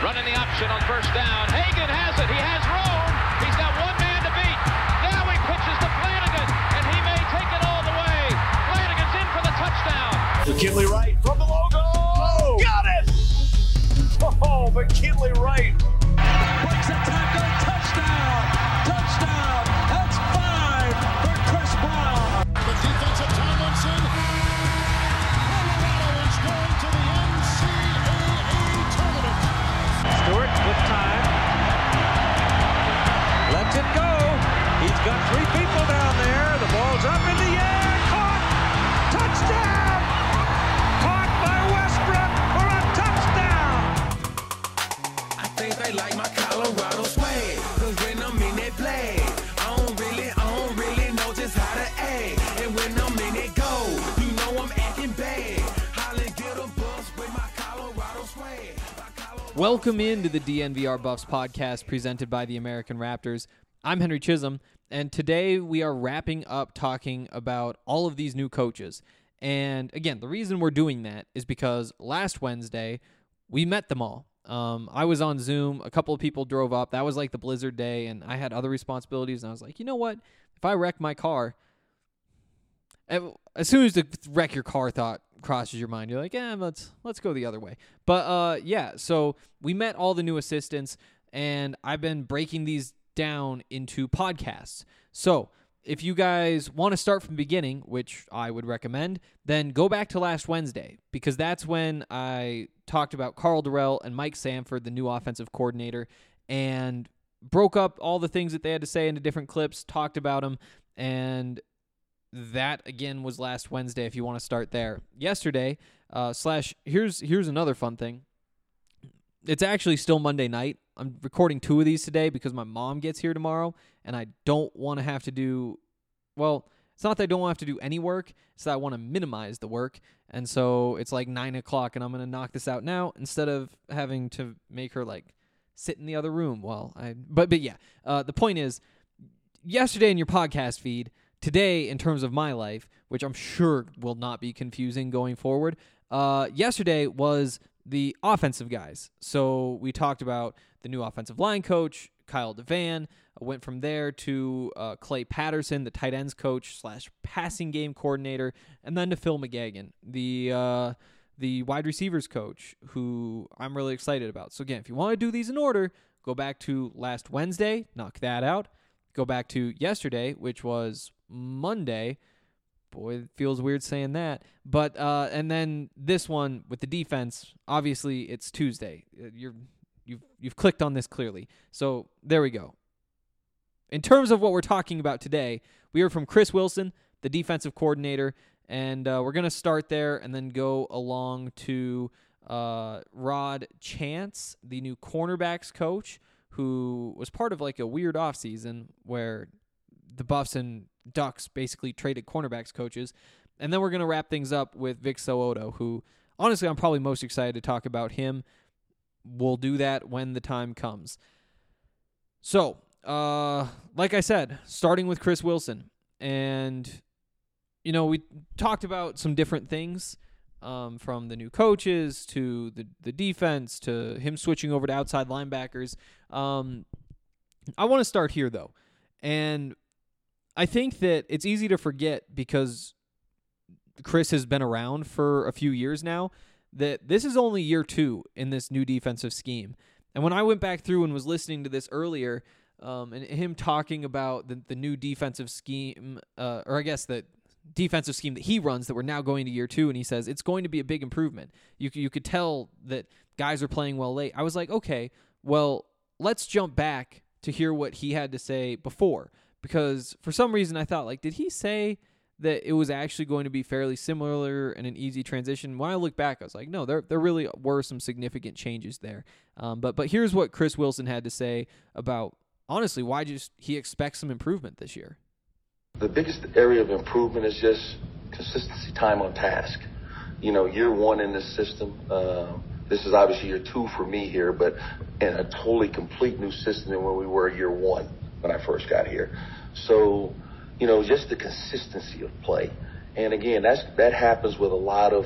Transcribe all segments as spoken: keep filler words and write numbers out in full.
Running the option on first down. Hagan has it. He has room. He's got one man to beat. Now he pitches to Flanagan, and he may take it all the way. Flanagan's in for the touchdown. McKinley Wright from the logo. Oh, got it! Oh, McKinley Wright. Breaks a tackle. Touchdown. Touchdown. That's five for Chris Brown. The defensive Tomlinson. Colorado is going to the N C double A tournament. Stewart with time. Lets it go. He's got three people down there. The ball's up in the air. Caught. Touchdown. Caught by Westbrook for a touchdown. I think they like my Colorado swag. Cause when I'm in that play, I don't really, I don't really know just how to act. And when I'm in it go, you know I'm acting bad. Holly get a bus with my Colorado swag. Welcome into the D N V R Buffs podcast presented by the American Raptors. I'm Henry Chisholm, and today we are wrapping up talking about all of these new coaches. And again, the reason we're doing that is because last Wednesday, we met them all. Um, I was on Zoom, a couple of people drove up, that was like the blizzard day, and I had other responsibilities, and I was like, you know what, if I wreck my car, as soon as the wreck your car thought crosses your mind, you're like, yeah, let's let's go the other way. But uh, yeah, so we met all the new assistants, and I've been breaking these down into podcasts. So if you guys want to start from the beginning, which I would recommend, then go back to last Wednesday, because that's when I talked about Carl Durrell and Mike Sanford, the new offensive coordinator, and broke up all the things that they had to say into different clips, talked about them, and that, again, was last Wednesday if you want to start there. Yesterday, uh, slash, here's here's another fun thing. It's actually still Monday night. I'm recording two of these today because my mom gets here tomorrow, and I don't want to have to do, well, it's not that I don't want to have to do any work, it's that I want to minimize the work, and so it's like nine o'clock, and I'm going to knock this out now instead of having to make her, like, sit in the other room while I, but, but yeah, uh, the point is, yesterday in your podcast feed, today, in terms of my life, which I'm sure will not be confusing going forward, uh, yesterday was the offensive guys. So we talked about the new offensive line coach, Kyle DeVan. I went from there to uh, Clay Patterson, the tight ends coach slash passing game coordinator, and then to Phil McGagan, the uh, the wide receivers coach, who I'm really excited about. So again, if you want to do these in order, go back to last Wednesday, knock that out. Go back to yesterday, which was Monday. Boy, it feels weird saying that. But uh, and then this one with the defense, obviously it's Tuesday. You're you've you've clicked on this clearly. So there we go. In terms of what we're talking about today, we heard from Chris Wilson, the defensive coordinator, and uh, we're gonna start there and then go along to uh, Rod Chance, the new cornerbacks coach, who was part of like a weird offseason where the Buffs and Ducks basically traded cornerbacks coaches. And then we're going to wrap things up with Vic So'oto, who, honestly, I'm probably most excited to talk about him. We'll do that when the time comes. So, uh, like I said, starting with Chris Wilson. And, you know, we talked about some different things, um, from the new coaches to the, the defense to him switching over to outside linebackers. Um, I want to start here, though. And I think that it's easy to forget because Chris has been around for a few years now that this is only year two in this new defensive scheme. And when I went back through and was listening to this earlier, um, and him talking about the, the new defensive scheme, uh, or I guess the defensive scheme that he runs that we're now going to year two, and he says it's going to be a big improvement. You, you could tell that guys are playing well late. I was like, okay, well, let's jump back to hear what he had to say before. Because for some reason I thought, like, did he say that it was actually going to be fairly similar and an easy transition? When I look back, I was like, no, there there really were some significant changes there. Um, but but here's what Chris Wilson had to say about, honestly, why just he expects some improvement this year. The biggest area of improvement is just consistency, time on task. You know, year one in this system, uh, this is obviously year two for me here, but in a totally complete new system than when we were year one when I first got here. So, you know, just the consistency of play. And again, that's that happens with a lot of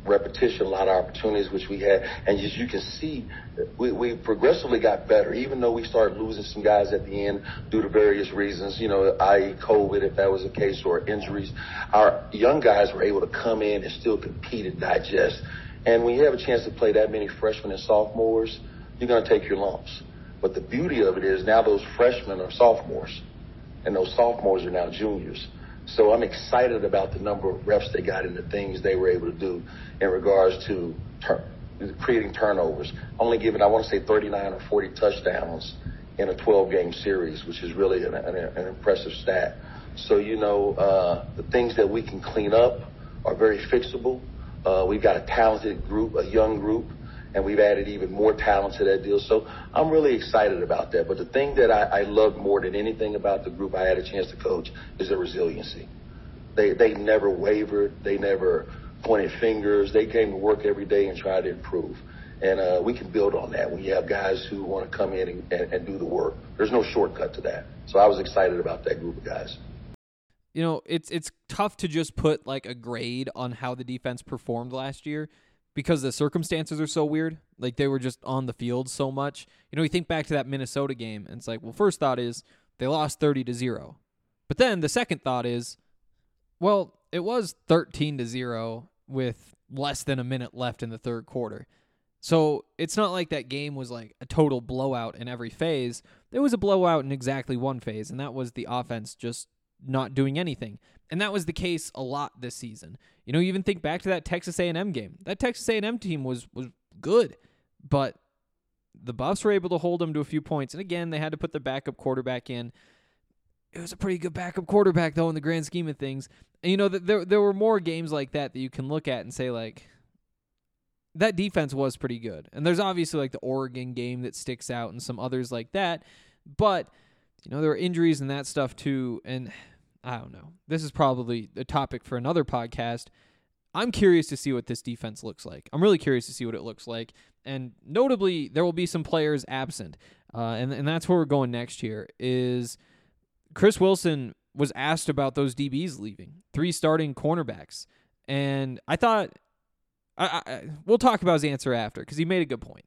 repetition, a lot of opportunities, which we had. And as you can see, we, we progressively got better, even though we started losing some guys at the end due to various reasons, you know, that is. COVID, if that was the case, or injuries. Our young guys were able to come in and still compete and digest. And when you have a chance to play that many freshmen and sophomores, you're going to take your lumps. But the beauty of it is now those freshmen are sophomores, and those sophomores are now juniors. So I'm excited about the number of reps they got and the things they were able to do in regards to tur- creating turnovers. Only giving, I want to say, thirty-nine or forty touchdowns in a twelve-game series, which is really an, an, an impressive stat. So, you know, uh, the things that we can clean up are very fixable. Uh, we've got a talented group, a young group, and we've added even more talent to that deal. So I'm really excited about that. But the thing that I, I love more than anything about the group I had a chance to coach is their resiliency. They they never wavered. They never pointed fingers. They came to work every day and tried to improve. And uh, we can build on that when you have guys who want to come in and, and, and do the work. There's no shortcut to that. So I was excited about that group of guys. You know, it's it's tough to just put like a grade on how the defense performed last year because the circumstances are so weird. Like they were just on the field so much. You know, you think back to that Minnesota game and it's like, well, first thought is they lost thirty to zero. But then the second thought is, well, it was thirteen to zero with less than a minute left in the third quarter. So it's not like that game was like a total blowout in every phase. There was a blowout in exactly one phase, and that was the offense just not doing anything. And that was the case a lot this season. You know, you even think back to that Texas A and M game. That Texas A and M team was was good, but the Buffs were able to hold them to a few points. And again, they had to put their backup quarterback in. It was a pretty good backup quarterback, though, in the grand scheme of things. And, you know, there there were more games like that that you can look at and say, like, that defense was pretty good. And there's obviously, like, the Oregon game that sticks out and some others like that. But, you know, there were injuries and that stuff, too. And I don't know. This is probably a topic for another podcast. I'm curious to see what this defense looks like. I'm really curious to see what it looks like. And notably, there will be some players absent. Uh, and, and that's where we're going next year is Chris Wilson was asked about those D Bs leaving, three starting cornerbacks. And I thought, I, I, we'll talk about his answer after because he made a good point.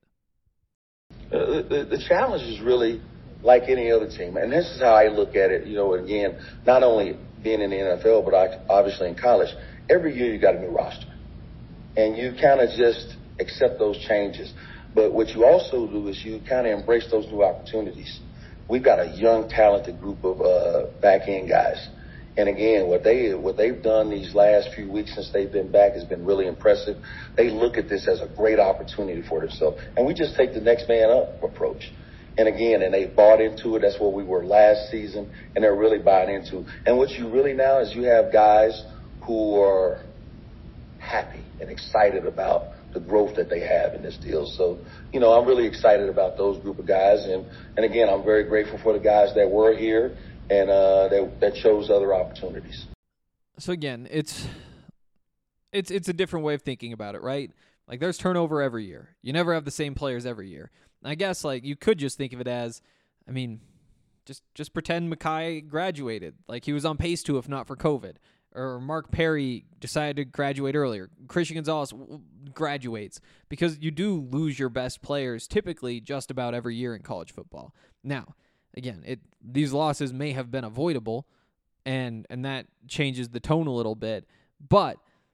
Uh, the, the challenge is really like any other team. And this is how I look at it, you know, again, not only being in the N F L, but I, obviously in college. Every year you got a new roster. And you kind of just accept those changes. But what you also do is you kind of embrace those new opportunities. We've got a young, talented group of uh, back-end guys. And again, what they what they've done these last few weeks since they've been back has been really impressive. They look at this as a great opportunity for themselves, and we just take the next man up approach. And again, and they bought into it. That's where we were last season, and they're really buying into it. And what you really now is you have guys who are happy and excited about the growth that they have in this deal. So, you know, I'm really excited about those group of guys, and and again, I'm very grateful for the guys that were here and uh, that, that chose other opportunities. So again, it's it's it's a different way of thinking about it, right? Like there's turnover every year. You never have the same players every year. I guess like you could just think of it as, I mean, just just pretend Mekhi graduated, like he was on pace to if not for COVID, or Mark Perry decided to graduate earlier. Christian Gonzalez graduates because you do lose your best players typically just about every year in college football. Now, again, it these losses may have been avoidable, and and that changes the tone a little bit. But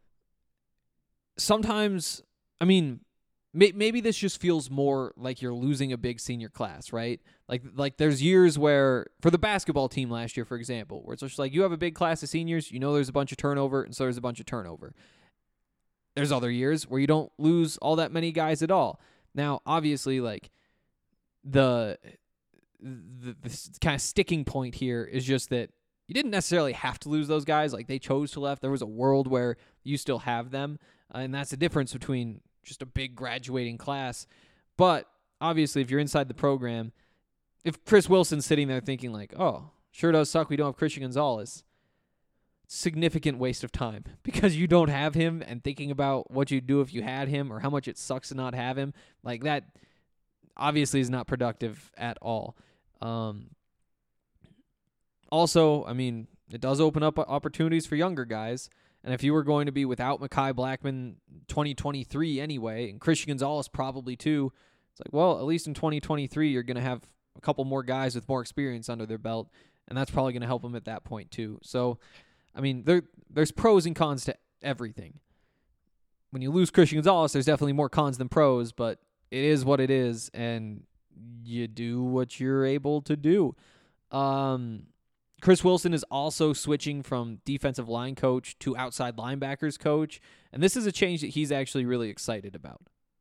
sometimes, I mean, may, maybe this just feels more like you're losing a big senior class, right? Like like there's years where, for the basketball team last year, for example, where it's just like you have a big class of seniors, you know there's a bunch of turnover, and so there's a bunch of turnover. There's other years where you don't lose all that many guys at all. Now, obviously, like the the, the kind of sticking point here is just that you didn't necessarily have to lose those guys. Like they chose to left. There was a world where you still have them, uh, and that's the difference between just a big graduating class. But obviously, if you're inside the program, if Chris Wilson's sitting there thinking like, oh, sure does suck we don't have Christian Gonzalez, significant waste of time because you don't have him, and thinking about what you'd do if you had him or how much it sucks to not have him, like that obviously is not productive at all. Um, also, I mean, it does open up opportunities for younger guys, And if you were going to be without Mekhi Blackmon twenty twenty-three anyway, and Christian Gonzalez probably too, it's like, well, at least in twenty twenty-three, you're going to have a couple more guys with more experience under their belt, and that's probably going to help them at that point too. So, I mean, there there's pros and cons to everything. When you lose Christian Gonzalez, there's definitely more cons than pros, but it is what it is, and you do what you're able to do. Um, Chris Wilson is also switching from defensive line coach to outside linebackers coach, and this is a change that he's actually really excited about.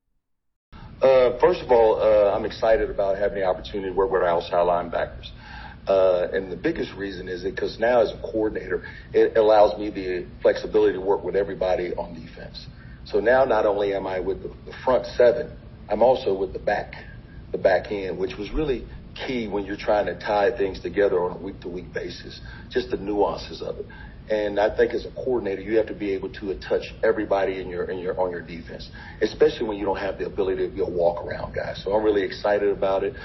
Uh, first of all, uh, I'm excited about having the opportunity to work with our outside linebackers. Uh, and the biggest reason is because now as a coordinator, it allows me the flexibility to work with everybody on defense. So now not only am I with the, the front seven, I'm also with the back, the back end, which was really key when you're trying to tie things together on a week-to-week basis, just the nuances of it. And I think as a coordinator, you have to be able to touch everybody in your in your on your defense, especially when you don't have the ability to be a walk-around guy. So I'm really excited about it.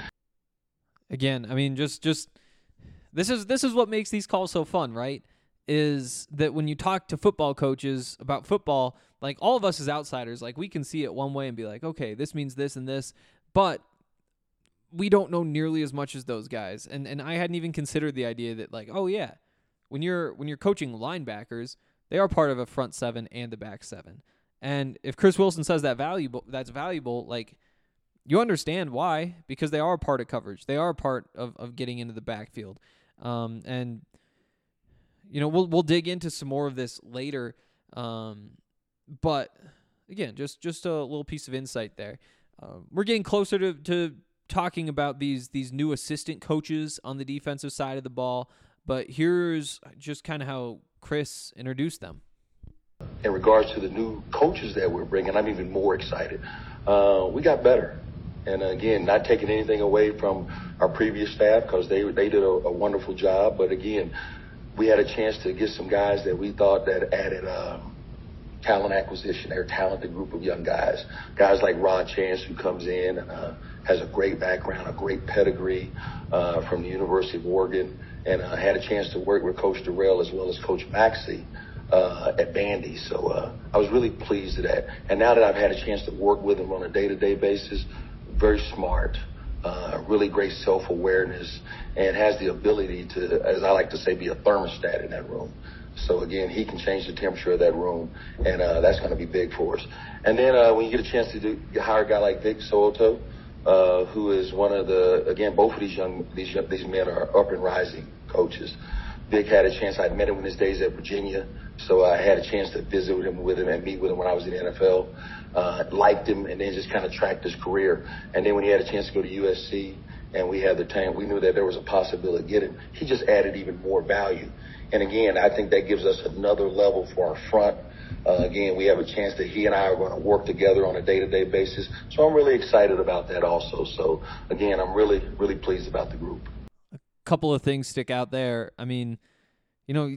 Again, I mean, just just this is this is what makes these calls so fun, right? Is that when you talk to football coaches about football, like all of us as outsiders, like we can see it one way and be like, okay, this means this and this, but we don't know nearly as much as those guys. And and I hadn't even considered the idea that like, oh yeah, when you're when you're coaching linebackers, they are part of a front seven and a back seven. And if Chris Wilson says that valuable that's valuable, like you understand why, because they are part of coverage. They are part of, of getting into the backfield. Um, and you know, we'll we'll dig into some more of this later. Um, but again, just just a little piece of insight there. Uh, we're getting closer to, to talking about these these new assistant coaches on the defensive side of the ball. But here's just kind of how Chris introduced them. In regards to the new coaches that we're bringing, I'm even more excited. Uh, we got better. And again, not taking anything away from our previous staff because they they did a, a wonderful job. But again, we had a chance to get some guys that we thought that added uh, talent acquisition. They're a talented group of young guys. Guys like Rod Chance, who comes in and uh, has a great background, a great pedigree uh, from the University of Oregon. And I uh, had a chance to work with Coach Durrell as well as Coach Maxey uh, at Bandy. So uh, I was really pleased with that. And now that I've had a chance to work with him on a day-to-day basis, very smart, uh, really great self-awareness, and has the ability to, as I like to say, be a thermostat in that room. So, again, he can change the temperature of that room, and uh, that's going to be big for us. And then uh, when you get a chance to do, hire a guy like Vic So'oto, uh, who is one of the, again, both of these young, these young, these men are up and rising coaches. Vic had a chance. I met him in his days at Virginia, so I had a chance to visit with him, with him and meet with him when I was in the N F L. Uh, liked him, and then just kind of tracked his career. And then when he had a chance to go to U S C, and we had the time, we knew that there was a possibility of getting him. He just added even more value. And again, I think that gives us another level for our front. Uh, again, we have a chance that he and I are going to work together on a day-to-day basis. So I'm really excited about that also. So, again, I'm really, really pleased about the group. A couple of things stick out there. I mean, you know,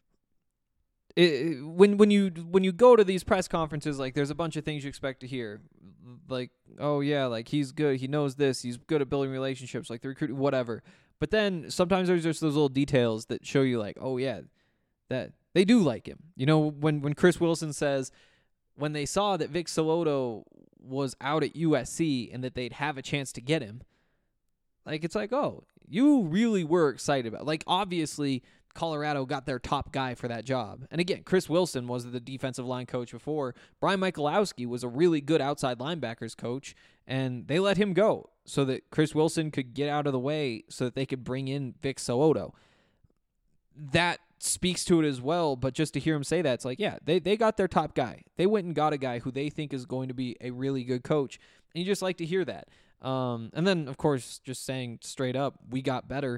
it, it, when when you when you go to these press conferences, like there's a bunch of things you expect to hear. Like, oh, yeah, like he's good. He knows this. He's good at building relationships, like the recruit, whatever. But then sometimes there's just those little details that show you like, oh, yeah, that they do like him. You know, when, when Chris Wilson says when they saw that Vic So'oto was out at U S C and that they'd have a chance to get him, like it's like, oh, you really were excited about it. Like, obviously, Colorado got their top guy for that job. And again, Chris Wilson was the defensive line coach before. Brian Michalowski was a really good outside linebackers coach, and they let him go so that Chris Wilson could get out of the way so that they could bring in Vic So'oto. That speaks to it as well, but just to hear him say that, it's like, yeah, they, they got their top guy. They went and got a guy who they think is going to be a really good coach, and you just like to hear that. Um, and then, of course, just saying straight up, we got better.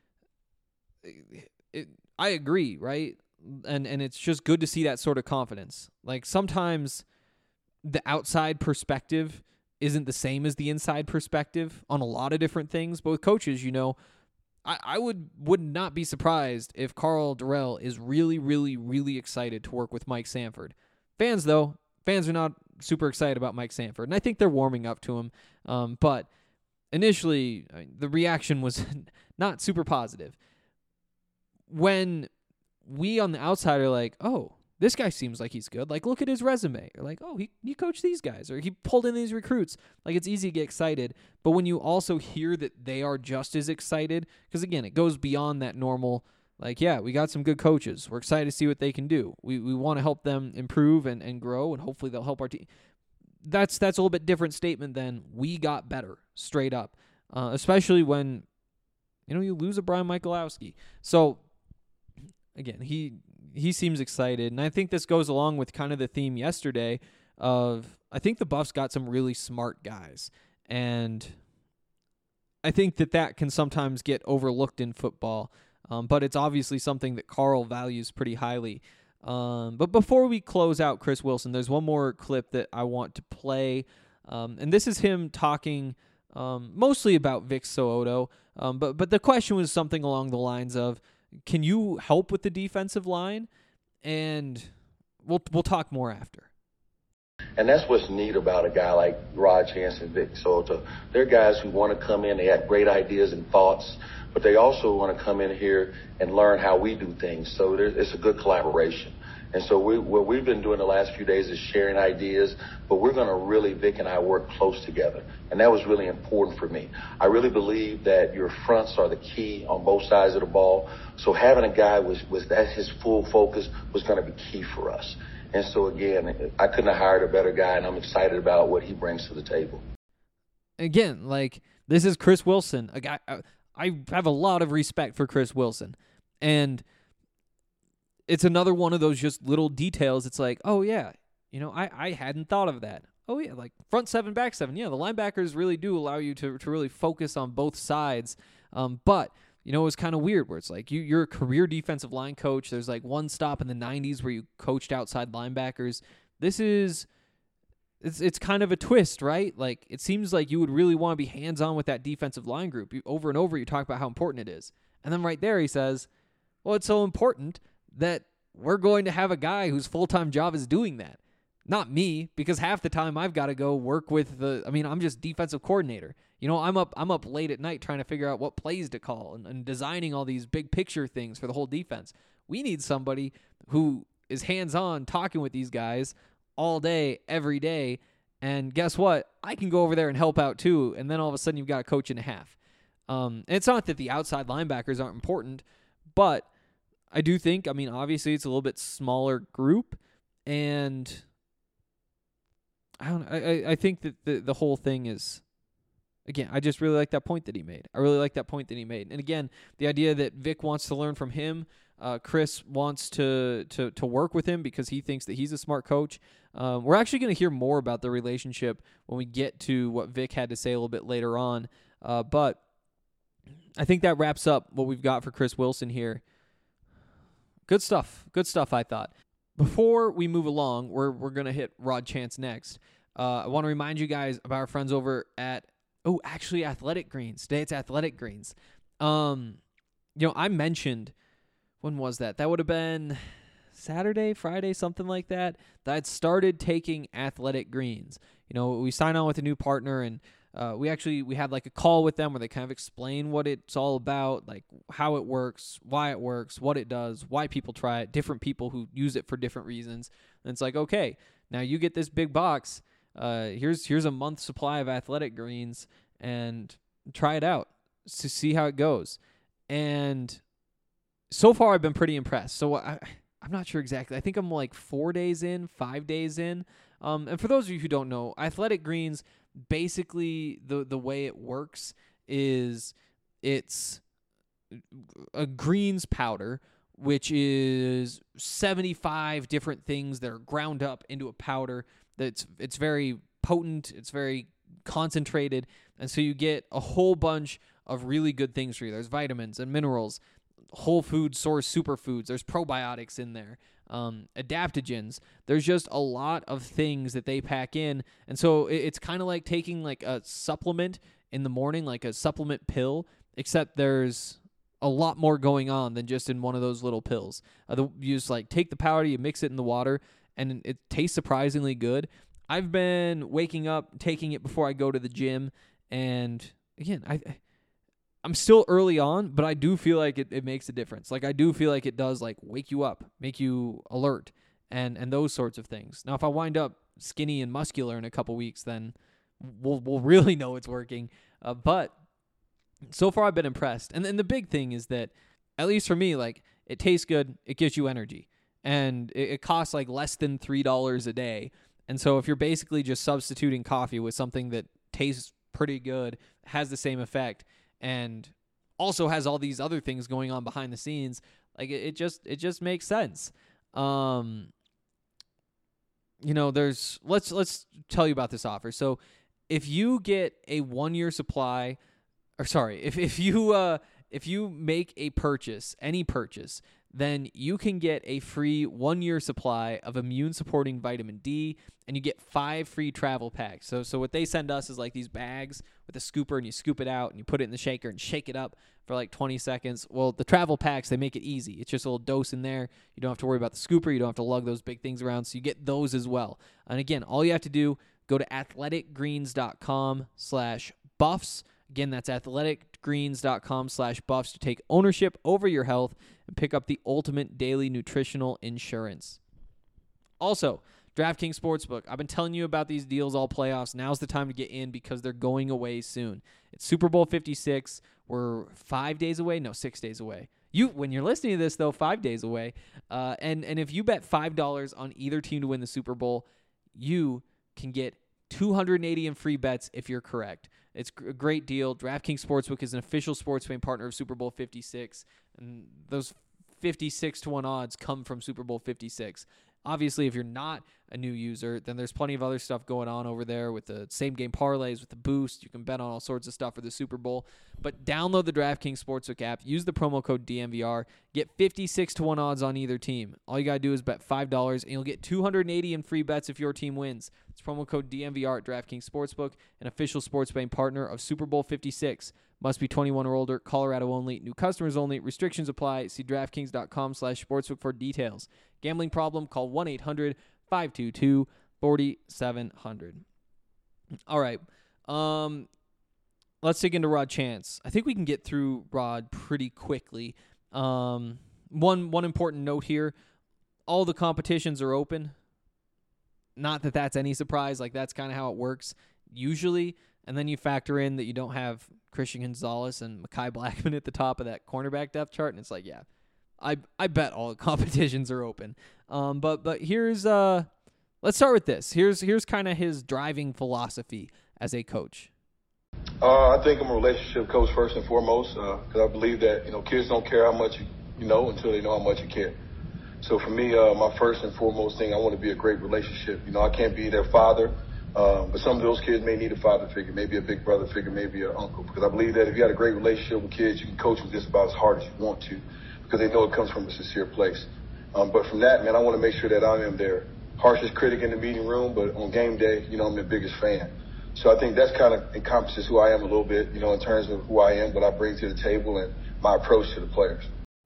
It, I agree, right? And and it's just good to see that sort of confidence. Like sometimes the outside perspective isn't the same as the inside perspective on a lot of different things. But with coaches, you know, I, I would would not be surprised if Karl Dorrell is really, really, really excited to work with Mike Sanford. Fans, though, fans are not super excited about Mike Sanford, and I think they're warming up to him. Um, but initially, I mean, the reaction was not super positive. When we on the outside are like, oh, this guy seems like he's good. Like, look at his resume. Or like, oh, he, he coached these guys, or he pulled in these recruits. Like, it's easy to get excited. But when you also hear that they are just as excited, because, again, it goes beyond that normal, like, yeah, we got some good coaches. We're excited to see what they can do. We we want to help them improve and, and grow, and hopefully they'll help our team. That's, that's a little bit different statement than we got better, straight up, uh, especially when, you know, you lose a Brian Michalowski. So, again, he he seems excited, and I think this goes along with kind of the theme yesterday of I think the Buffs got some really smart guys, and I think that that can sometimes get overlooked in football, um, but it's obviously something that Carl values pretty highly. Um, but before we close out Chris Wilson, there's one more clip that I want to play, um, and this is him talking um, mostly about Vic So'oto, um, but but the question was something along the lines of, can you help with the defensive line? And we'll we'll talk more after. And that's what's neat about a guy like Rod Chance and Vic So'oto. They're guys who want to come in, they have great ideas and thoughts, but they also want to come in here and learn how we do things. So there, it's a good collaboration. And so we, what we've been doing the last few days is sharing ideas, but we're going to really, Vic and I, work close together. And that was really important for me. I really believe that your fronts are the key on both sides of the ball. So having a guy with, with that, his full focus was going to be key for us. And so, again, I couldn't have hired a better guy, and I'm excited about what he brings to the table. Again, like, this is Chris Wilson, a guy. I have a lot of respect for Chris Wilson. And it's another one of those just little details. It's like, oh, yeah, you know, I, I hadn't thought of that. Oh, yeah, like front seven, back seven. Yeah, the linebackers really do allow you to, to really focus on both sides. Um, but, you know, it was kind of weird where it's like you, you're a career defensive line coach. There's like one stop in the nineties where you coached outside linebackers. This is, it's it's kind of a twist, right? Like, it seems like you would really want to be hands-on with that defensive line group. You, over and over, you talk about how important it is. And then right there he says, well, it's so important that we're going to have a guy whose full-time job is doing that. Not me, because half the time I've got to go work with the, I mean, I'm just defensive coordinator. You know, I'm up I'm up late at night trying to figure out what plays to call and, and designing all these big picture things for the whole defense. We need somebody who is hands-on talking with these guys all day, every day, and guess what? I can go over there and help out too, and then all of a sudden you've got a coach and a half. Um, and it's not that the outside linebackers aren't important, but I do think, I mean, obviously it's a little bit smaller group, and I don't I, I think that the, the whole thing is, again, I just really like that point that he made. I really like that point that he made. And again, the idea that Vic wants to learn from him, uh, Chris wants to, to to work with him because he thinks that he's a smart coach. Um, we're actually going to hear more about the relationship when we get to what Vic had to say a little bit later on. Uh, but I think that wraps up what we've got for Chris Wilson here. Good stuff. Good stuff, I thought. Before we move along, we're we're going to hit Rod Chance next. Uh, I want to remind you guys about our friends over at, oh, actually Athletic Greens. Today it's Athletic Greens. Um, you know, I mentioned, when was that? That would have been Saturday, Friday, something like that, that I'd started taking Athletic Greens. You know, we signed on with a new partner, and Uh, we actually, we had like a call with them where they kind of explain what it's all about, like how it works, why it works, what it does, why people try it, different people who use it for different reasons. And it's like, okay, now you get this big box. Uh, here's, here's a month's supply of Athletic Greens, and try it out to see how it goes. And so far I've been pretty impressed. So I, I'm not sure exactly. I think I'm like four days in, five days in. Um, and for those of you who don't know, Athletic Greens, basically the the way it works is it's a greens powder, which is seventy-five different things that are ground up into a powder. That's it's very potent, it's very concentrated, and so you get a whole bunch of really good things for you. There's vitamins and minerals, whole food source superfoods. There's probiotics in there. Um, adaptogens. There's just a lot of things that they pack in, and so it, it's kind of like taking like a supplement in the morning, like a supplement pill, except there's a lot more going on than just in one of those little pills. Uh, the, you just like take the powder, you mix it in the water, and it tastes surprisingly good. I've been waking up, taking it before I go to the gym, and again, I. I'm still early on, but I do feel like it, it makes a difference. Like, I do feel like it does, like, wake you up, make you alert. and and those sorts of things. Now, if I wind up skinny and muscular in a couple weeks, then we'll we'll really know it's working. Uh, but so far, I've been impressed. And then the big thing is that, at least for me, like, it tastes good, it gives you energy, and it, it costs like less than three dollars a day. And so if you're basically just substituting coffee with something that tastes pretty good, has the same effect, and also has all these other things going on behind the scenes, like it, it just it just makes sense. Um, you know, there's let's let's tell you about this offer. So if you get a one year supply, or sorry, if if you uh if you make a purchase, any purchase, then you can get a free one-year supply of immune-supporting vitamin D, and you get five free travel packs. So so what they send us is like these bags with a scooper, and you scoop it out, and you put it in the shaker and shake it up for like twenty seconds. Well, the travel packs, they make it easy. It's just a little dose in there. You don't have to worry about the scooper. You don't have to lug those big things around, so you get those as well. And again, all you have to do, go to athleticgreens.com slash buffs. Again, that's athleticgreens.com slash buffs to take ownership over your health and pick up the ultimate daily nutritional insurance. Also, DraftKings Sportsbook. I've been telling you about these deals all playoffs. Now's the time to get in because they're going away soon. It's Super Bowl fifty-six. We're five days away. No, six days away. You, when you're listening to this, though, five days away. Uh, and, and if you bet five dollars on either team to win the Super Bowl, you can get two hundred eighty in free bets if you're correct. It's a great deal. DraftKings Sportsbook is an official sports betting partner of Super Bowl fifty-six, and those fifty-six to one odds come from Super Bowl fifty-six. Obviously, if you're not a new user, then there's plenty of other stuff going on over there with the same-game parlays, with the boost. You can bet on all sorts of stuff for the Super Bowl. But download the DraftKings Sportsbook app. Use the promo code D M V R. Get fifty-six to one odds on either team. All you got to do is bet five dollars, and you'll get two hundred eighty in free bets if your team wins. It's promo code D M V R at DraftKings Sportsbook, an official sports betting partner of Super Bowl fifty-six. Must be twenty-one or older. Colorado only. New customers only. Restrictions apply. See DraftKings.com slash sportsbook for details. Gambling problem? Call one eight hundred five two two four seven zero zero. All right. Um, let's dig into Rod Chance. I think we can get through Rod pretty quickly. Um, one one important note here. All the competitions are open. Not that that's any surprise. Like, that's kind of how it works usually. And then you factor in that you don't have Christian Gonzalez and Mekhi Blackmon at the top of that cornerback depth chart, and it's like, yeah, I I bet all the competitions are open. Um, but but here's uh, let's start with this. Here's here's kind of his driving philosophy as a coach. Uh, I think I'm a relationship coach first and foremost, because uh, I believe that you know kids don't care how much you, you know until they know how much you care. So for me, uh, my first and foremost thing, I want to be a great relationship. You know, I can't be their father. Um, but some of those kids may need a father figure, maybe a big brother figure, maybe an uncle. Because I believe that if you had a great relationship with kids, you can coach them just about as hard as you want to, because they know it comes from a sincere place. Um, but from that, man, I want to make sure that I am their harshest critic in the meeting room, but on game day, you know, I'm their biggest fan. So I think that's kind of encompasses who I am a little bit, you know, in terms of who I am, what I bring to the table, and my approach to the players.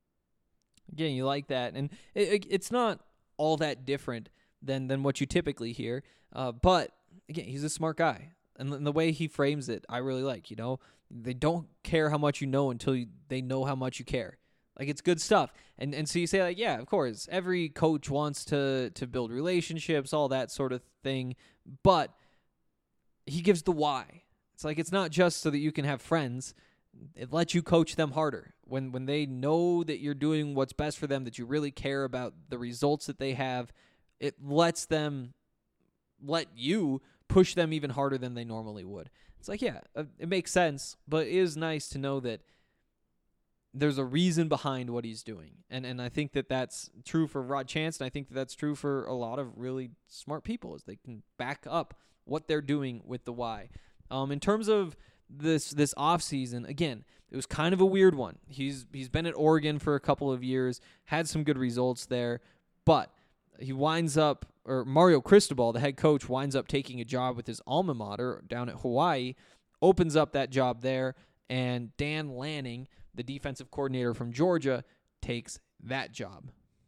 Again, you like that. And it, it, it's not all that different than, than what you typically hear, uh, but again, he's a smart guy, and the way he frames it, I really like. You know, they don't care how much you know until you, they know how much you care. Like, it's good stuff. And and so you say, like, yeah, of course, every coach wants to to build relationships, all that sort of thing, but he gives the why. It's like, it's not just so that you can have friends. It lets you coach them harder. When when they know that you're doing what's best for them, that you really care about the results that they have, it lets them let you push them even harder than they normally would. It's like, yeah, it makes sense, but it is nice to know that there's a reason behind what he's doing. And and I think that that's true for Rod Chance, and I think that that's true for a lot of really smart people, is they can back up what they're doing with the why. Um, in terms of this this offseason, again, it was kind of a weird one. He's He's been at Oregon for a couple of years, had some good results there, but he winds up, or Mario Cristobal, the head coach, winds up taking a job with his alma mater down at Hawaii, opens up that job there, and Dan Lanning, the defensive coordinator from Georgia, takes that job.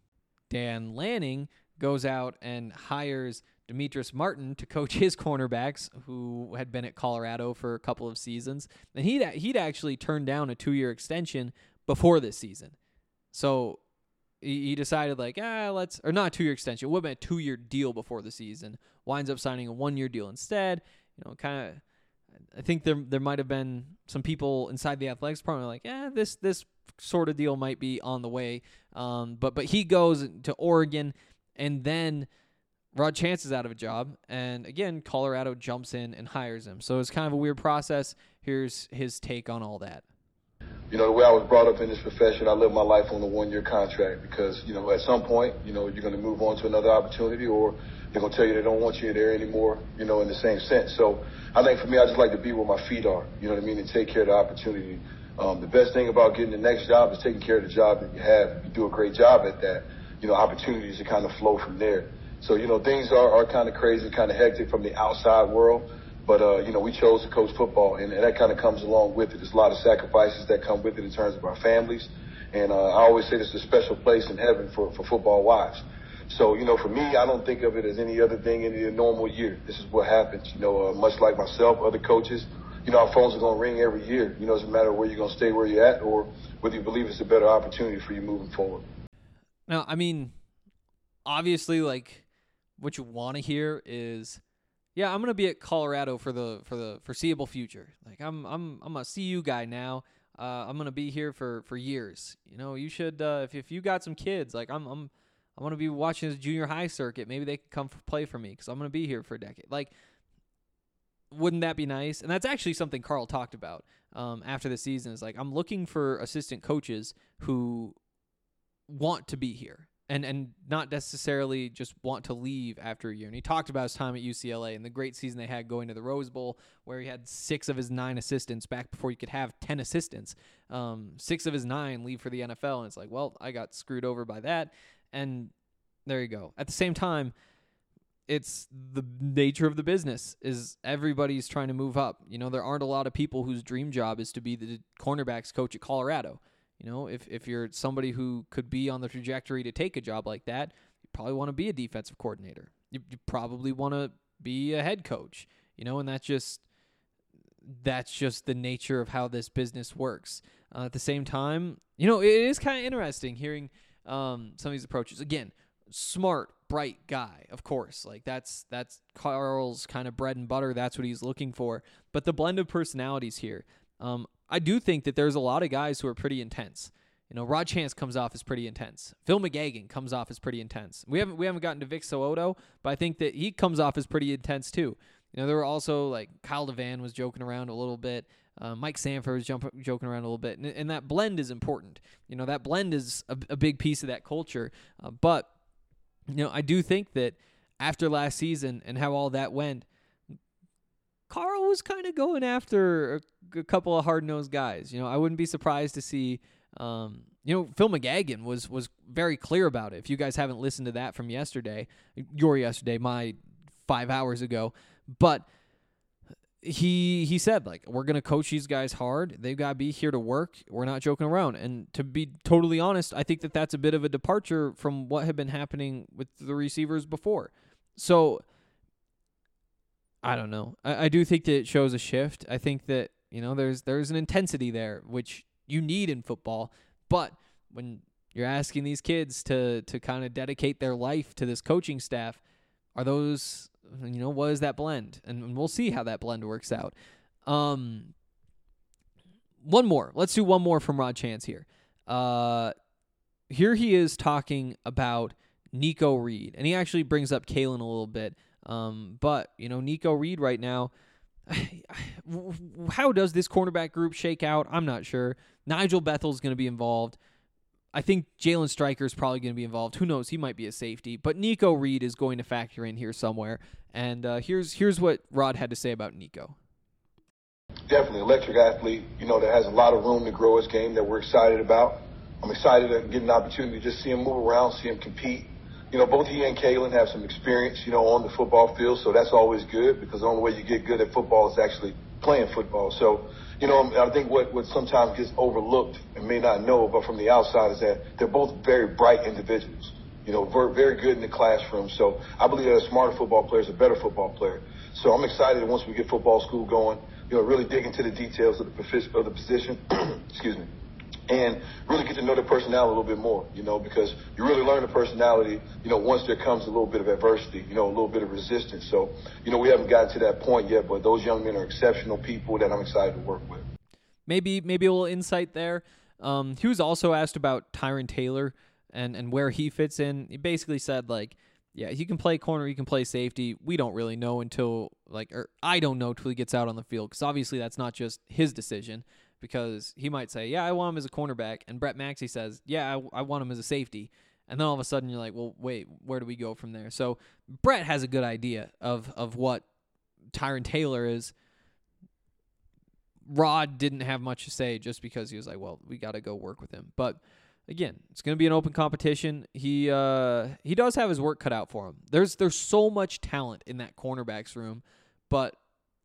Dan Lanning goes out and hires Demetrius Martin to coach his cornerbacks, who had been at Colorado for a couple of seasons. And he'd, he'd actually turned down a two-year extension before this season. So he, he decided like, ah, let's, or not a two-year extension. It would have been a two-year deal before the season. Winds up signing a one-year deal instead. You know, kind of, I think there there might have been some people inside the athletics department like, yeah, this this sort of deal might be on the way. Um, but but he goes to Oregon, and then Rod Chance is out of a job, and again, Colorado jumps in and hires him. So it's kind of a weird process. Here's his take on all that. You know, the way I was brought up in this profession, I live my life on a one-year contract because, you know, at some point, you know, you're going to move on to another opportunity, or they're going to tell you they don't want you there anymore, you know, in the same sense. So I think for me, I just like to be where my feet are, you know what I mean, and take care of the opportunity. Um, the best thing about getting the next job is taking care of the job that you have. If you do a great job at that, you know, opportunities to kind of flow from there. So, you know, things are, are kind of crazy, kind of hectic from the outside world. But, uh, you know, we chose to coach football, and, and that kind of comes along with it. There's a lot of sacrifices that come with it in terms of our families. And uh, I always say this is a special place in heaven for, for football wives. So, you know, for me, I don't think of it as any other thing in a normal year. This is what happens. You know, uh, much like myself, other coaches, you know, our phones are going to ring every year. You know, it doesn't matter where you're going to stay where you're at or whether you believe it's a better opportunity for you moving forward. Now, I mean, obviously, like, what you want to hear is, yeah, I'm gonna be at Colorado for the for the foreseeable future. Like I'm I'm I'm a C U guy now. Uh, I'm gonna be here for, for years. You know, you should uh, if if you got some kids, like I'm I'm I'm gonna be watching this junior high circuit. Maybe they can come f- play for me because I'm gonna be here for a decade. Like, wouldn't that be nice? And that's actually something Carl talked about um, after the season. Is like I'm looking for assistant coaches who want to be here. And and not necessarily just want to leave after a year. And he talked about his time at U C L A and the great season they had going to the Rose Bowl, where he had six of his nine assistants back before you could have ten assistants. Um, six of his nine leave for the N F L, and it's like, well, I got screwed over by that. And there you go. At the same time, it's the nature of the business is everybody's trying to move up. You know, there aren't a lot of people whose dream job is to be the cornerbacks coach at Colorado. You know, if, if you're somebody who could be on the trajectory to take a job like that, you probably want to be a defensive coordinator. You, you probably want to be a head coach, you know, and that's just, that's just the nature of how this business works. Uh, at the same time, you know, it is kind of interesting hearing um, some of these approaches. Again, smart, bright guy, of course. Like that's, that's Carl's kind of bread and butter. That's what he's looking for. But the blend of personalities here, um, I do think that there's a lot of guys who are pretty intense. You know, Rod Chance comes off as pretty intense. Phil McGagan comes off as pretty intense. We haven't we haven't gotten to Vic So'oto, but I think that he comes off as pretty intense too. You know, there were also like Kyle DeVan was joking around a little bit. Uh, Mike Sanford was jump, joking around a little bit, and, and that blend is important. You know, that blend is a, a big piece of that culture. Uh, but you know, I do think that after last season and how all that went, Carl was kind of going after a, a couple of hard-nosed guys. You know, I wouldn't be surprised to see, um, you know, Phil McGagan was was very clear about it. If you guys haven't listened to that from yesterday, your yesterday, my five hours ago, but he he said, like, we're going to coach these guys hard. They've got to be here to work. We're not joking around. And to be totally honest, I think that that's a bit of a departure from what had been happening with the receivers before. So I don't know. I, I do think that it shows a shift. I think that, you know, there's there's an intensity there, which you need in football. But when you're asking these kids to to kind of dedicate their life to this coaching staff, are those, you know, what is that blend? And, and we'll see how that blend works out. Um, one more. Let's do one more from Rod Chance here. Uh, here he is talking about Nico Reed. And he actually brings up Kalen a little bit. Um, but, you know, Nico Reed right now, how does this cornerback group shake out? I'm not sure. Nigel Bethel's going to be involved. I think Jalen Stryker's probably going to be involved. Who knows? He might be a safety. But Nico Reed is going to factor in here somewhere. And uh, here's here's what Rod had to say about Nico. Definitely electric athlete, you know, that has a lot of room to grow his game that we're excited about. I'm excited to get an opportunity to just see him move around, see him compete. You know, both he and Kalen have some experience, you know, on the football field, so that's always good because the only way you get good at football is actually playing football. So, you know, I think what, what sometimes gets overlooked and may not know, but from the outside, is that they're both very bright individuals, you know, very, very good in the classroom. So I believe that a smarter football player is a better football player. So I'm excited that once we get football school going, you know, really dig into the details of the, of the position, excuse me, and really get to know their personality a little bit more, you know, because you really learn the personality, you know, once there comes a little bit of adversity, you know, a little bit of resistance. So, you know, we haven't gotten to that point yet, but those young men are exceptional people that I'm excited to work with. Maybe maybe a little insight there. Um, he was also asked about Tyron Taylor and, and where he fits in. He basically said, like, yeah, he can play corner, he can play safety. We don't really know until, like, or I don't know until he gets out on the field, because obviously that's not just his decision, because he might say, yeah, I want him as a cornerback, and Brett Maxey says, yeah, I, I want him as a safety. And then all of a sudden you're like, well, wait, where do we go from there? So Brett has a good idea of, of what Tyron Taylor is. Rod didn't have much to say just because he was like, well, we got to go work with him. But again, it's going to be an open competition. He uh, he does have his work cut out for him. There's there's so much talent in that cornerbacks room, but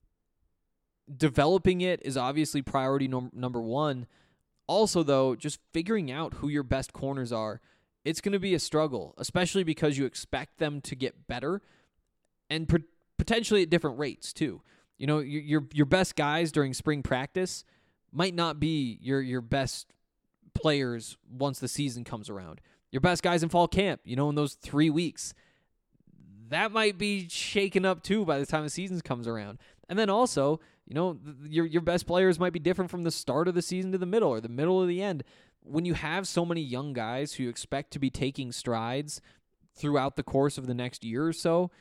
developing it is obviously priority num- number one. Also, though, just figuring out who your best corners are, it's going to be a struggle, especially because you expect them to get better and p- potentially at different rates too. You know, your, your your best guys during spring practice might not be your your best players once the season comes around. Your best guys in fall camp, you know, in those three weeks, that might be shaken up too by the time the season comes around. And then also, you know, your your best players might be different from the start of the season to the middle or the middle of the end. When you have so many young guys who you expect to be taking strides throughout the course of the next year or so,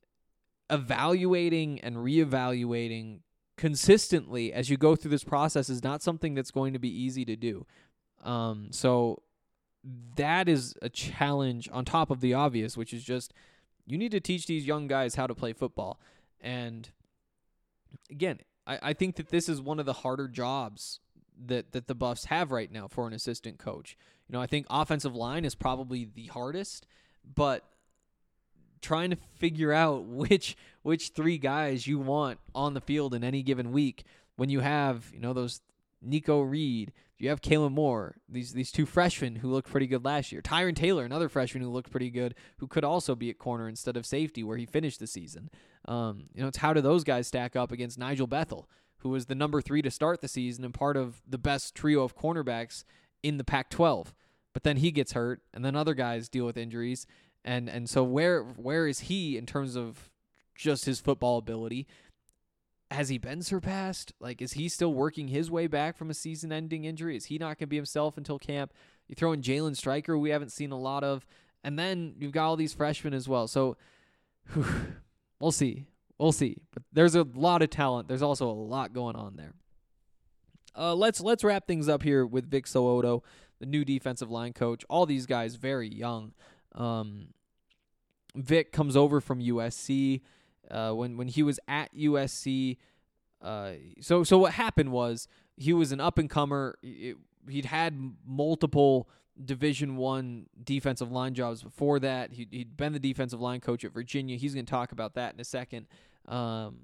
evaluating and reevaluating consistently as you go through this process is not something that's going to be easy to do. Um, so that is a challenge on top of the obvious, which is just you need to teach these young guys how to play football. And again, I, I think that this is one of the harder jobs that, that the Buffs have right now for an assistant coach. You know, I think offensive line is probably the hardest, but trying to figure out which which three guys you want on the field in any given week when you have, you know, those Nico Reed, you have Kalen Moore, these these two freshmen who looked pretty good last year. Tyron Taylor, another freshman who looked pretty good, who could also be at corner instead of safety where he finished the season. Um, you know, it's how do those guys stack up against Nigel Bethel, who was the number three to start the season and part of the best trio of cornerbacks in the Pac twelve. But then he gets hurt, and then other guys deal with injuries. And and so where where is he in terms of just his football ability? Has he been surpassed? Like, is he still working his way back from a season-ending injury? Is he not going to be himself until camp? You throw in Jalen Stryker, we haven't seen a lot of, and then you've got all these freshmen as well. So whew, we'll see. We'll see. But there's a lot of talent. There's also a lot going on there. Uh, let's let's wrap things up here with Vic So'oto, the new defensive line coach. All these guys very young. Um, Vic comes over from U S C. Uh, when when he was at U S C, uh, so so what happened was he was an up and comer. He'd had multiple Division One defensive line jobs before that. He'd, he'd been the defensive line coach at Virginia. He's going to talk about that in a second. Um,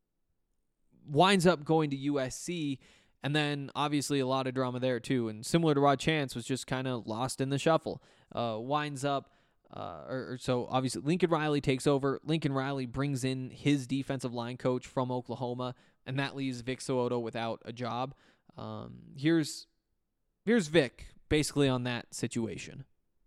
winds up going to U S C, and then obviously a lot of drama there too. And similar to Rod Chance, was just kind of lost in the shuffle. Uh, winds up. Uh, or, or so obviously Lincoln Riley takes over. Lincoln Riley brings in his defensive line coach from Oklahoma, and that leaves Vic So'oto without a job. Um, here's here's Vic basically on that situation.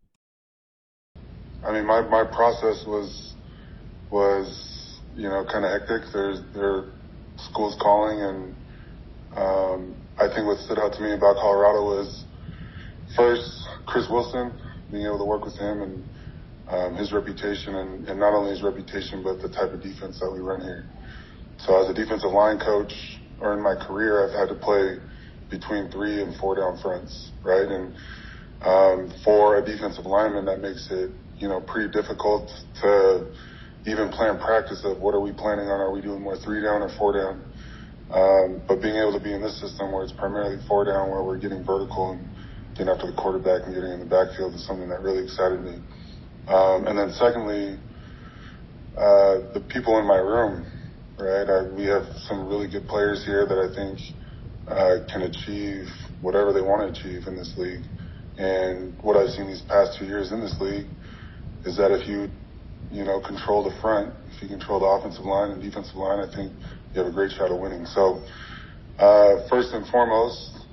I mean, my, my process was was you know kind of hectic. There's there schools calling, and um, I think what stood out to me about Colorado was first Chris Wilson, being able to work with him and Um, his reputation, and, and not only his reputation, but the type of defense that we run here. So as a defensive line coach, or in my career, I've had to play between three and four down fronts, right? And um, for a defensive lineman, that makes it, you know, pretty difficult to even plan practice of what are we planning on? Are we doing more three down or four down? Um, but being able to be in this system where it's primarily four down, where we're getting vertical and getting after the quarterback and getting in the backfield is something that really excited me. Um, and then secondly, uh, the people in my room, right? I, we have some really good players here that I think uh, can achieve whatever they want to achieve in this league. And what I've seen these past two years in this league is that if you, you know, control the front, if you control the offensive line and defensive line, I think you have a great shot of winning. So uh, first and foremost,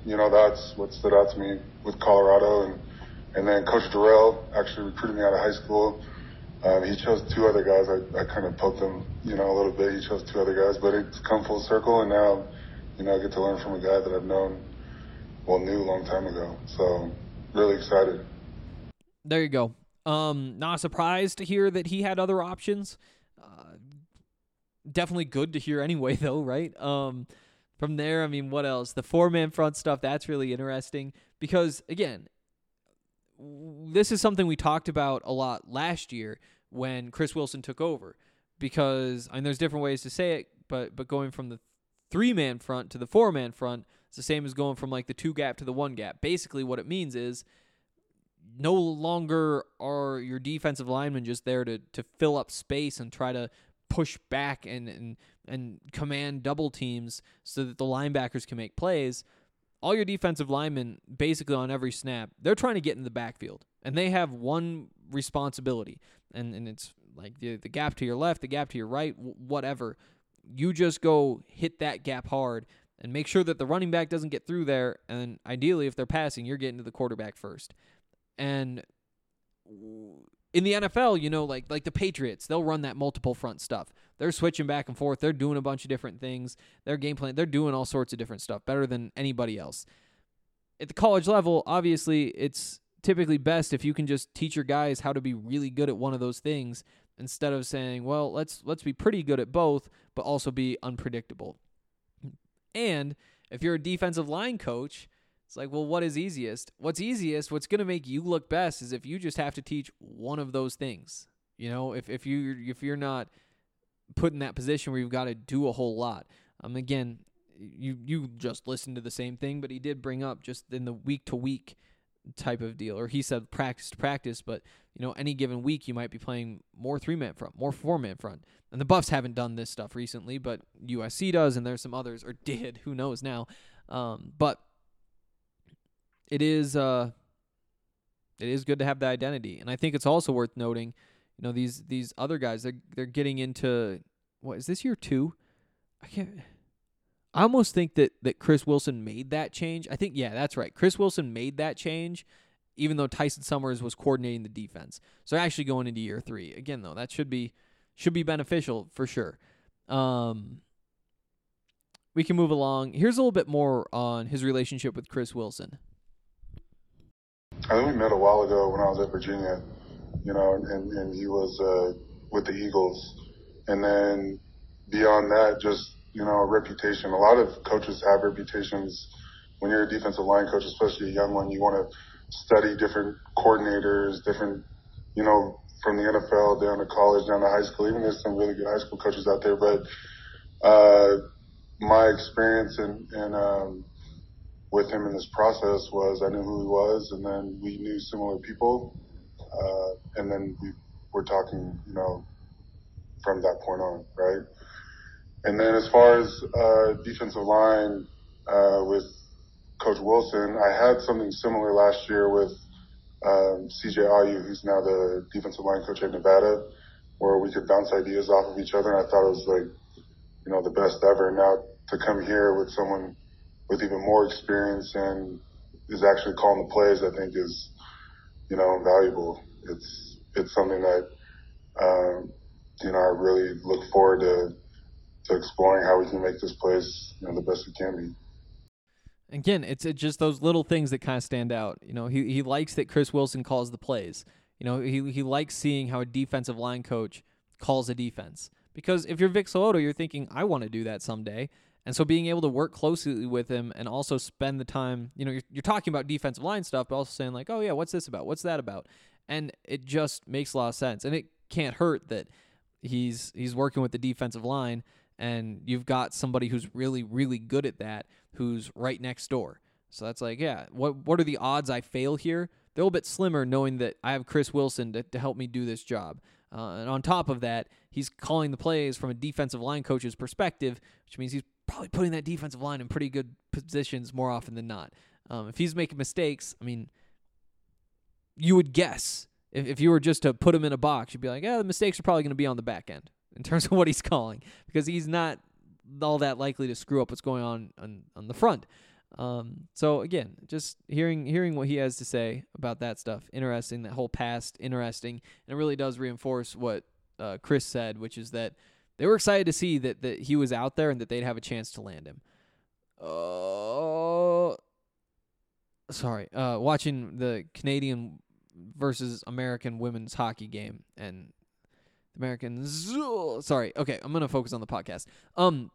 you know, that's what stood out to me with Colorado. And, and then Coach Durrell actually recruited me out of high school. Um, he chose two other guys. I, I kind of poked him, you know, a little bit. He chose two other guys, but it's come full circle, and now, you know, I get to learn from a guy that I've known, well, knew a long time ago. So really excited. There you go. Um, not surprised to hear that he had other options. Uh, definitely good to hear anyway, though, right? Um, from there, I mean, what else? The four-man front stuff, that's really interesting because, again, this is something we talked about a lot last year when Chris Wilson took over, because I mean, there's different ways to say it, but but going from the three-man front to the four-man front, it's the same as going from like the two-gap to the one-gap. Basically, what it means is no longer are your defensive linemen just there to to fill up space and try to push back and and and command double teams so that the linebackers can make plays. All your defensive linemen, basically on every snap, they're trying to get in the backfield, and they have one responsibility, and, and it's like the, the gap to your left, the gap to your right, w- whatever. You just go hit that gap hard and make sure that the running back doesn't get through there, and ideally, if they're passing, you're getting to the quarterback first. And in the N F L, you know, like like the Patriots, they'll run that multiple front stuff. They're switching back and forth. They're doing a bunch of different things. Their game plan, they're doing all sorts of different stuff, better than anybody else. At the college level, obviously, it's typically best if you can just teach your guys how to be really good at one of those things instead of saying, well, let's let's be pretty good at both, but also be unpredictable. And if you're a defensive line coach, it's like, well, what is easiest? What's easiest, what's going to make you look best is if you just have to teach one of those things. You know, if if you if you're not put in that position where you've got to do a whole lot. Um, again, you you just listened to the same thing, but he did bring up just in the week to week type of deal, or he said practice to practice, but you know, any given week you might be playing more three man front, more four man front. And the Buffs haven't done this stuff recently, but U S C does, and there's some others, or did, who knows now. Um, but It is uh, it is good to have the identity, and I think it's also worth noting, you know, these these other guys, they're they're getting into, what is this year two? I can't. I almost think that that Chris Wilson made that change. I think yeah, that's right. Chris Wilson made that change, even though Tyson Summers was coordinating the defense. So actually going into year three again, though, that should be should be beneficial for sure. Um, we can move along. Here's a little bit more on his relationship with Chris Wilson. I think we met a while ago when I was at Virginia, you know, and, and he was uh, with the Eagles. And then beyond that, just, you know, a reputation. A lot of coaches have reputations. When you're a defensive line coach, especially a young one, you want to study different coordinators, different, you know, from the N F L down to college, down to high school. Even there's some really good high school coaches out there. But uh, my experience in, in um, with him in this process was I knew who he was, and then we knew similar people, uh, and then we were talking, you know, from that point on, right? And then as far as uh, defensive line uh, with Coach Wilson, I had something similar last year with um, C J Ayu, who's now the defensive line coach at Nevada, where we could bounce ideas off of each other, and I thought it was like, you know, the best ever. Now to come here with someone with even more experience and is actually calling the plays, I think is, you know, invaluable. It's it's something that, um, you know, I really look forward to to exploring how we can make this place, you know, the best it can be. Again, it's, it's just those little things that kind of stand out. You know, he he likes that Chris Wilson calls the plays. You know, he he likes seeing how a defensive line coach calls a defense. Because if you're Vic So'oto, you're thinking, I want to do that someday. And so being able to work closely with him and also spend the time, you know, you're, you're talking about defensive line stuff, but also saying like, oh yeah, what's this about? What's that about? And it just makes a lot of sense. And it can't hurt that he's he's working with the defensive line, and you've got somebody who's really, really good at that, who's right next door. So that's like, yeah, what what are the odds I fail here? They're a little bit slimmer knowing that I have Chris Wilson to, to help me do this job. Uh, and on top of that, he's calling the plays from a defensive line coach's perspective, which means he's probably putting that defensive line in pretty good positions more often than not. Um, if he's making mistakes, I mean, you would guess. If, if you were just to put him in a box, you'd be like, yeah, the mistakes are probably going to be on the back end in terms of what he's calling, because he's not all that likely to screw up what's going on on, on the front. Um, so again, just hearing hearing what he has to say about that stuff, interesting. That whole past, interesting, and it really does reinforce what uh, Chris said, which is that they were excited to see that that he was out there and that they'd have a chance to land him. Oh, uh, sorry. Uh, watching the Canadian versus American women's hockey game and the Americans. Sorry. Okay, I'm gonna focus on the podcast. Um.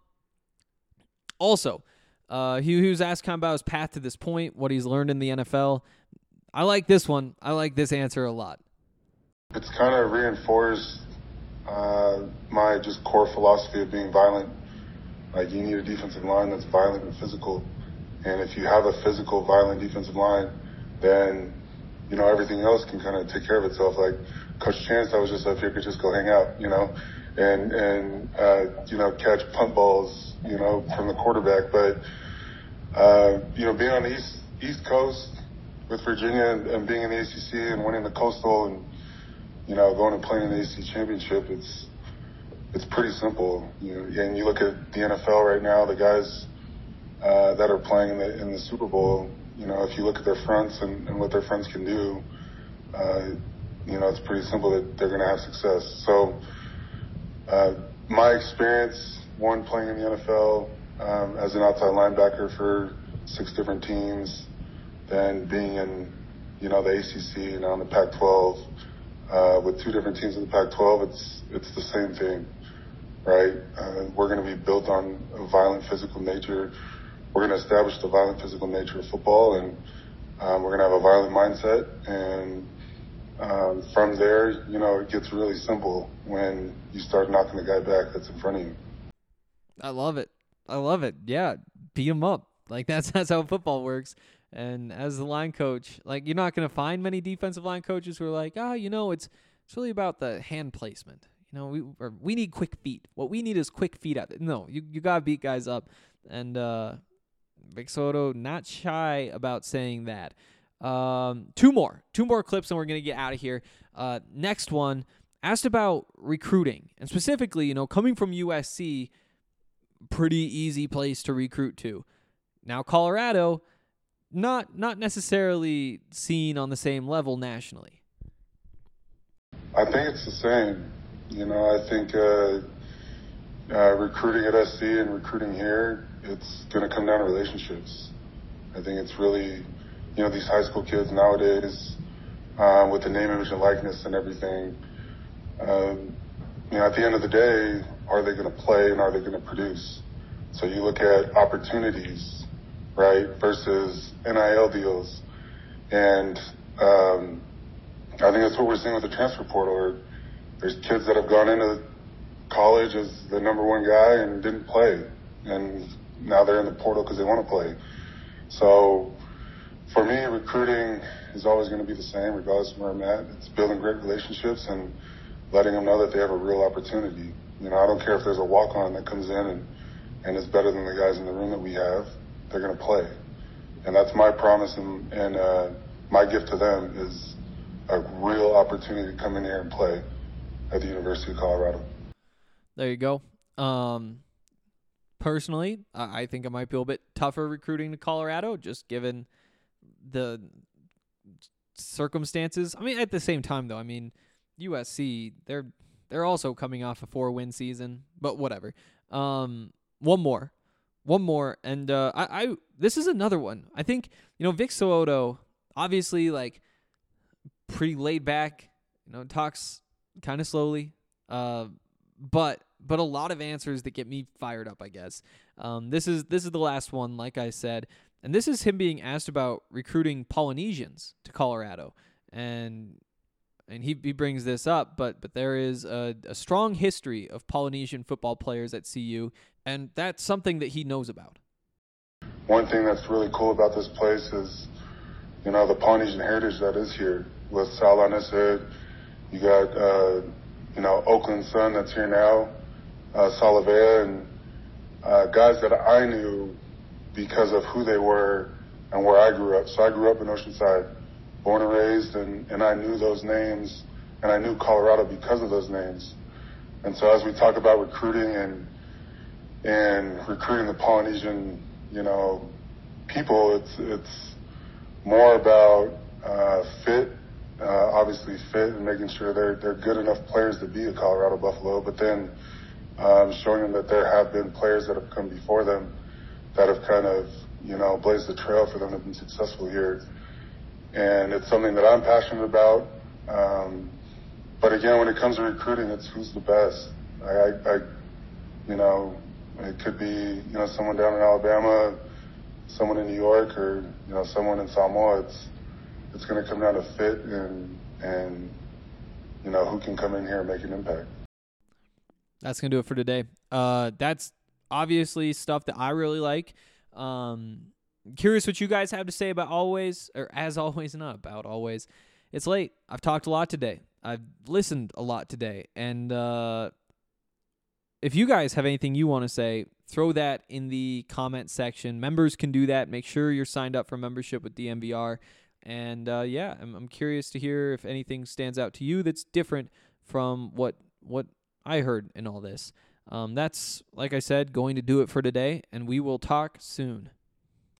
Also. Uh, he, he was asked kind of about his path to this point, what he's learned in the N F L. I like this one. I like this answer a lot. It's kind of reinforced uh, my just core philosophy of being violent. Like, you need a defensive line that's violent and physical. And if you have a physical, violent defensive line, then, you know, everything else can kind of take care of itself. Like, Coach Chance, I was just up here, could just go hang out, you know, and, and uh, you know, catch punt balls, you know, from the quarterback. But, uh, you know, being on the East, East Coast with Virginia and, and being in the A C C and winning the Coastal and, you know, going and playing in the A C C championship, it's it's pretty simple. You know, and you look at the N F L right now, the guys uh, that are playing in the, in the Super Bowl, you know, if you look at their fronts and, and what their fronts can do, uh, you know, it's pretty simple that they're going to have success. So uh, my experience, one, playing in the N F L um, as an outside linebacker for six different teams, then being in, you know, the A C C and on the Pac twelve uh, with two different teams in the Pac twelve, it's it's the same thing, right? Uh, we're going to be built on a violent physical nature. We're going to establish the violent physical nature of football, and um, we're going to have a violent mindset. And um, from there, you know, it gets really simple when you start knocking the guy back that's in front of you. I love it. I love it. Yeah, beat him up. Like, that's that's how football works. And as the line coach, like, you're not going to find many defensive line coaches who are like, ah, oh, you know, it's it's really about the hand placement. You know, we or we need quick feet. What we need is quick feet out there. No, you you got to beat guys up. And uh, Vic Soto, not shy about saying that. Um, two more. Two more clips, and we're going to get out of here. Uh, next one, asked about recruiting. And specifically, you know, coming from U S C, pretty easy place to recruit to. Now, Colorado, not not necessarily seen on the same level nationally. I think it's the same. You know, I think uh, uh, recruiting at S C and recruiting here, it's going to come down to relationships. I think it's really, you know, these high school kids nowadays, uh, with the name, image, and likeness and everything, um, you know, at the end of the day, are they going to play and are they going to produce? So you look at opportunities, right, versus N I L deals. And um, I think that's what we're seeing with the transfer portal. Or there's kids that have gone into college as the number one guy and didn't play. And now they're in the portal because they want to play. So for me, recruiting is always going to be the same, regardless of where I'm at. It's building great relationships and letting them know that they have a real opportunity. You know, I don't care if there's a walk-on that comes in and, and is better than the guys in the room that we have. They're going to play. And that's my promise, and, and uh, my gift to them is a real opportunity to come in here and play at the University of Colorado. There you go. Um, personally, I, I think it might be a little bit tougher recruiting to Colorado, just given the circumstances. I mean, at the same time, though, I mean, U S C, they're they're also coming off a four-win season, but whatever. Um, one more. One more, and uh, I, I this is another one. I think, you know, Vic Soto, obviously, like, pretty laid back, you know, talks kind of slowly, uh, but but a lot of answers that get me fired up, I guess. Um, this is this is the last one, like I said, and this is him being asked about recruiting Polynesians to Colorado, and and he he brings this up, but but there is a, a strong history of Polynesian football players at C U, and that's something that he knows about. One thing that's really cool about this place is, you know, the Polynesian heritage that is here. With Sal Anised, you got, uh, you know, Oakland Sun that's here now, uh, Salavea, and uh, guys that I knew because of who they were and where I grew up. So I grew up in Oceanside, born and raised, and, and I knew those names, and I knew Colorado because of those names. And so as we talk about recruiting and and recruiting the Polynesian, you know, people. It's it's more about uh, fit, uh, obviously fit, and making sure they're they're good enough players to be a Colorado Buffalo. But then um, showing them that there have been players that have come before them that have kind of, you know, blazed the trail for them to be successful here. And it's something that I'm passionate about. Um, but again, when it comes to recruiting, it's who's the best. I, I, I, you know, it could be, you know, someone down in Alabama, someone in New York, or, you know, someone in Samoa. It's, it's going to come down to fit and, and, you know, who can come in here and make an impact. That's going to do it for today. Uh, that's obviously stuff that I really like. Um, curious what you guys have to say about always, or as always, not about always. It's late. I've talked a lot today. I've listened a lot today. And uh, if you guys have anything you want to say, throw that in the comment section. Members can do that. Make sure you're signed up for membership with D M V R. And uh, yeah, I'm, I'm curious to hear if anything stands out to you that's different from what what I heard in all this. Um, that's, like I said, going to do it for today, and we will talk soon.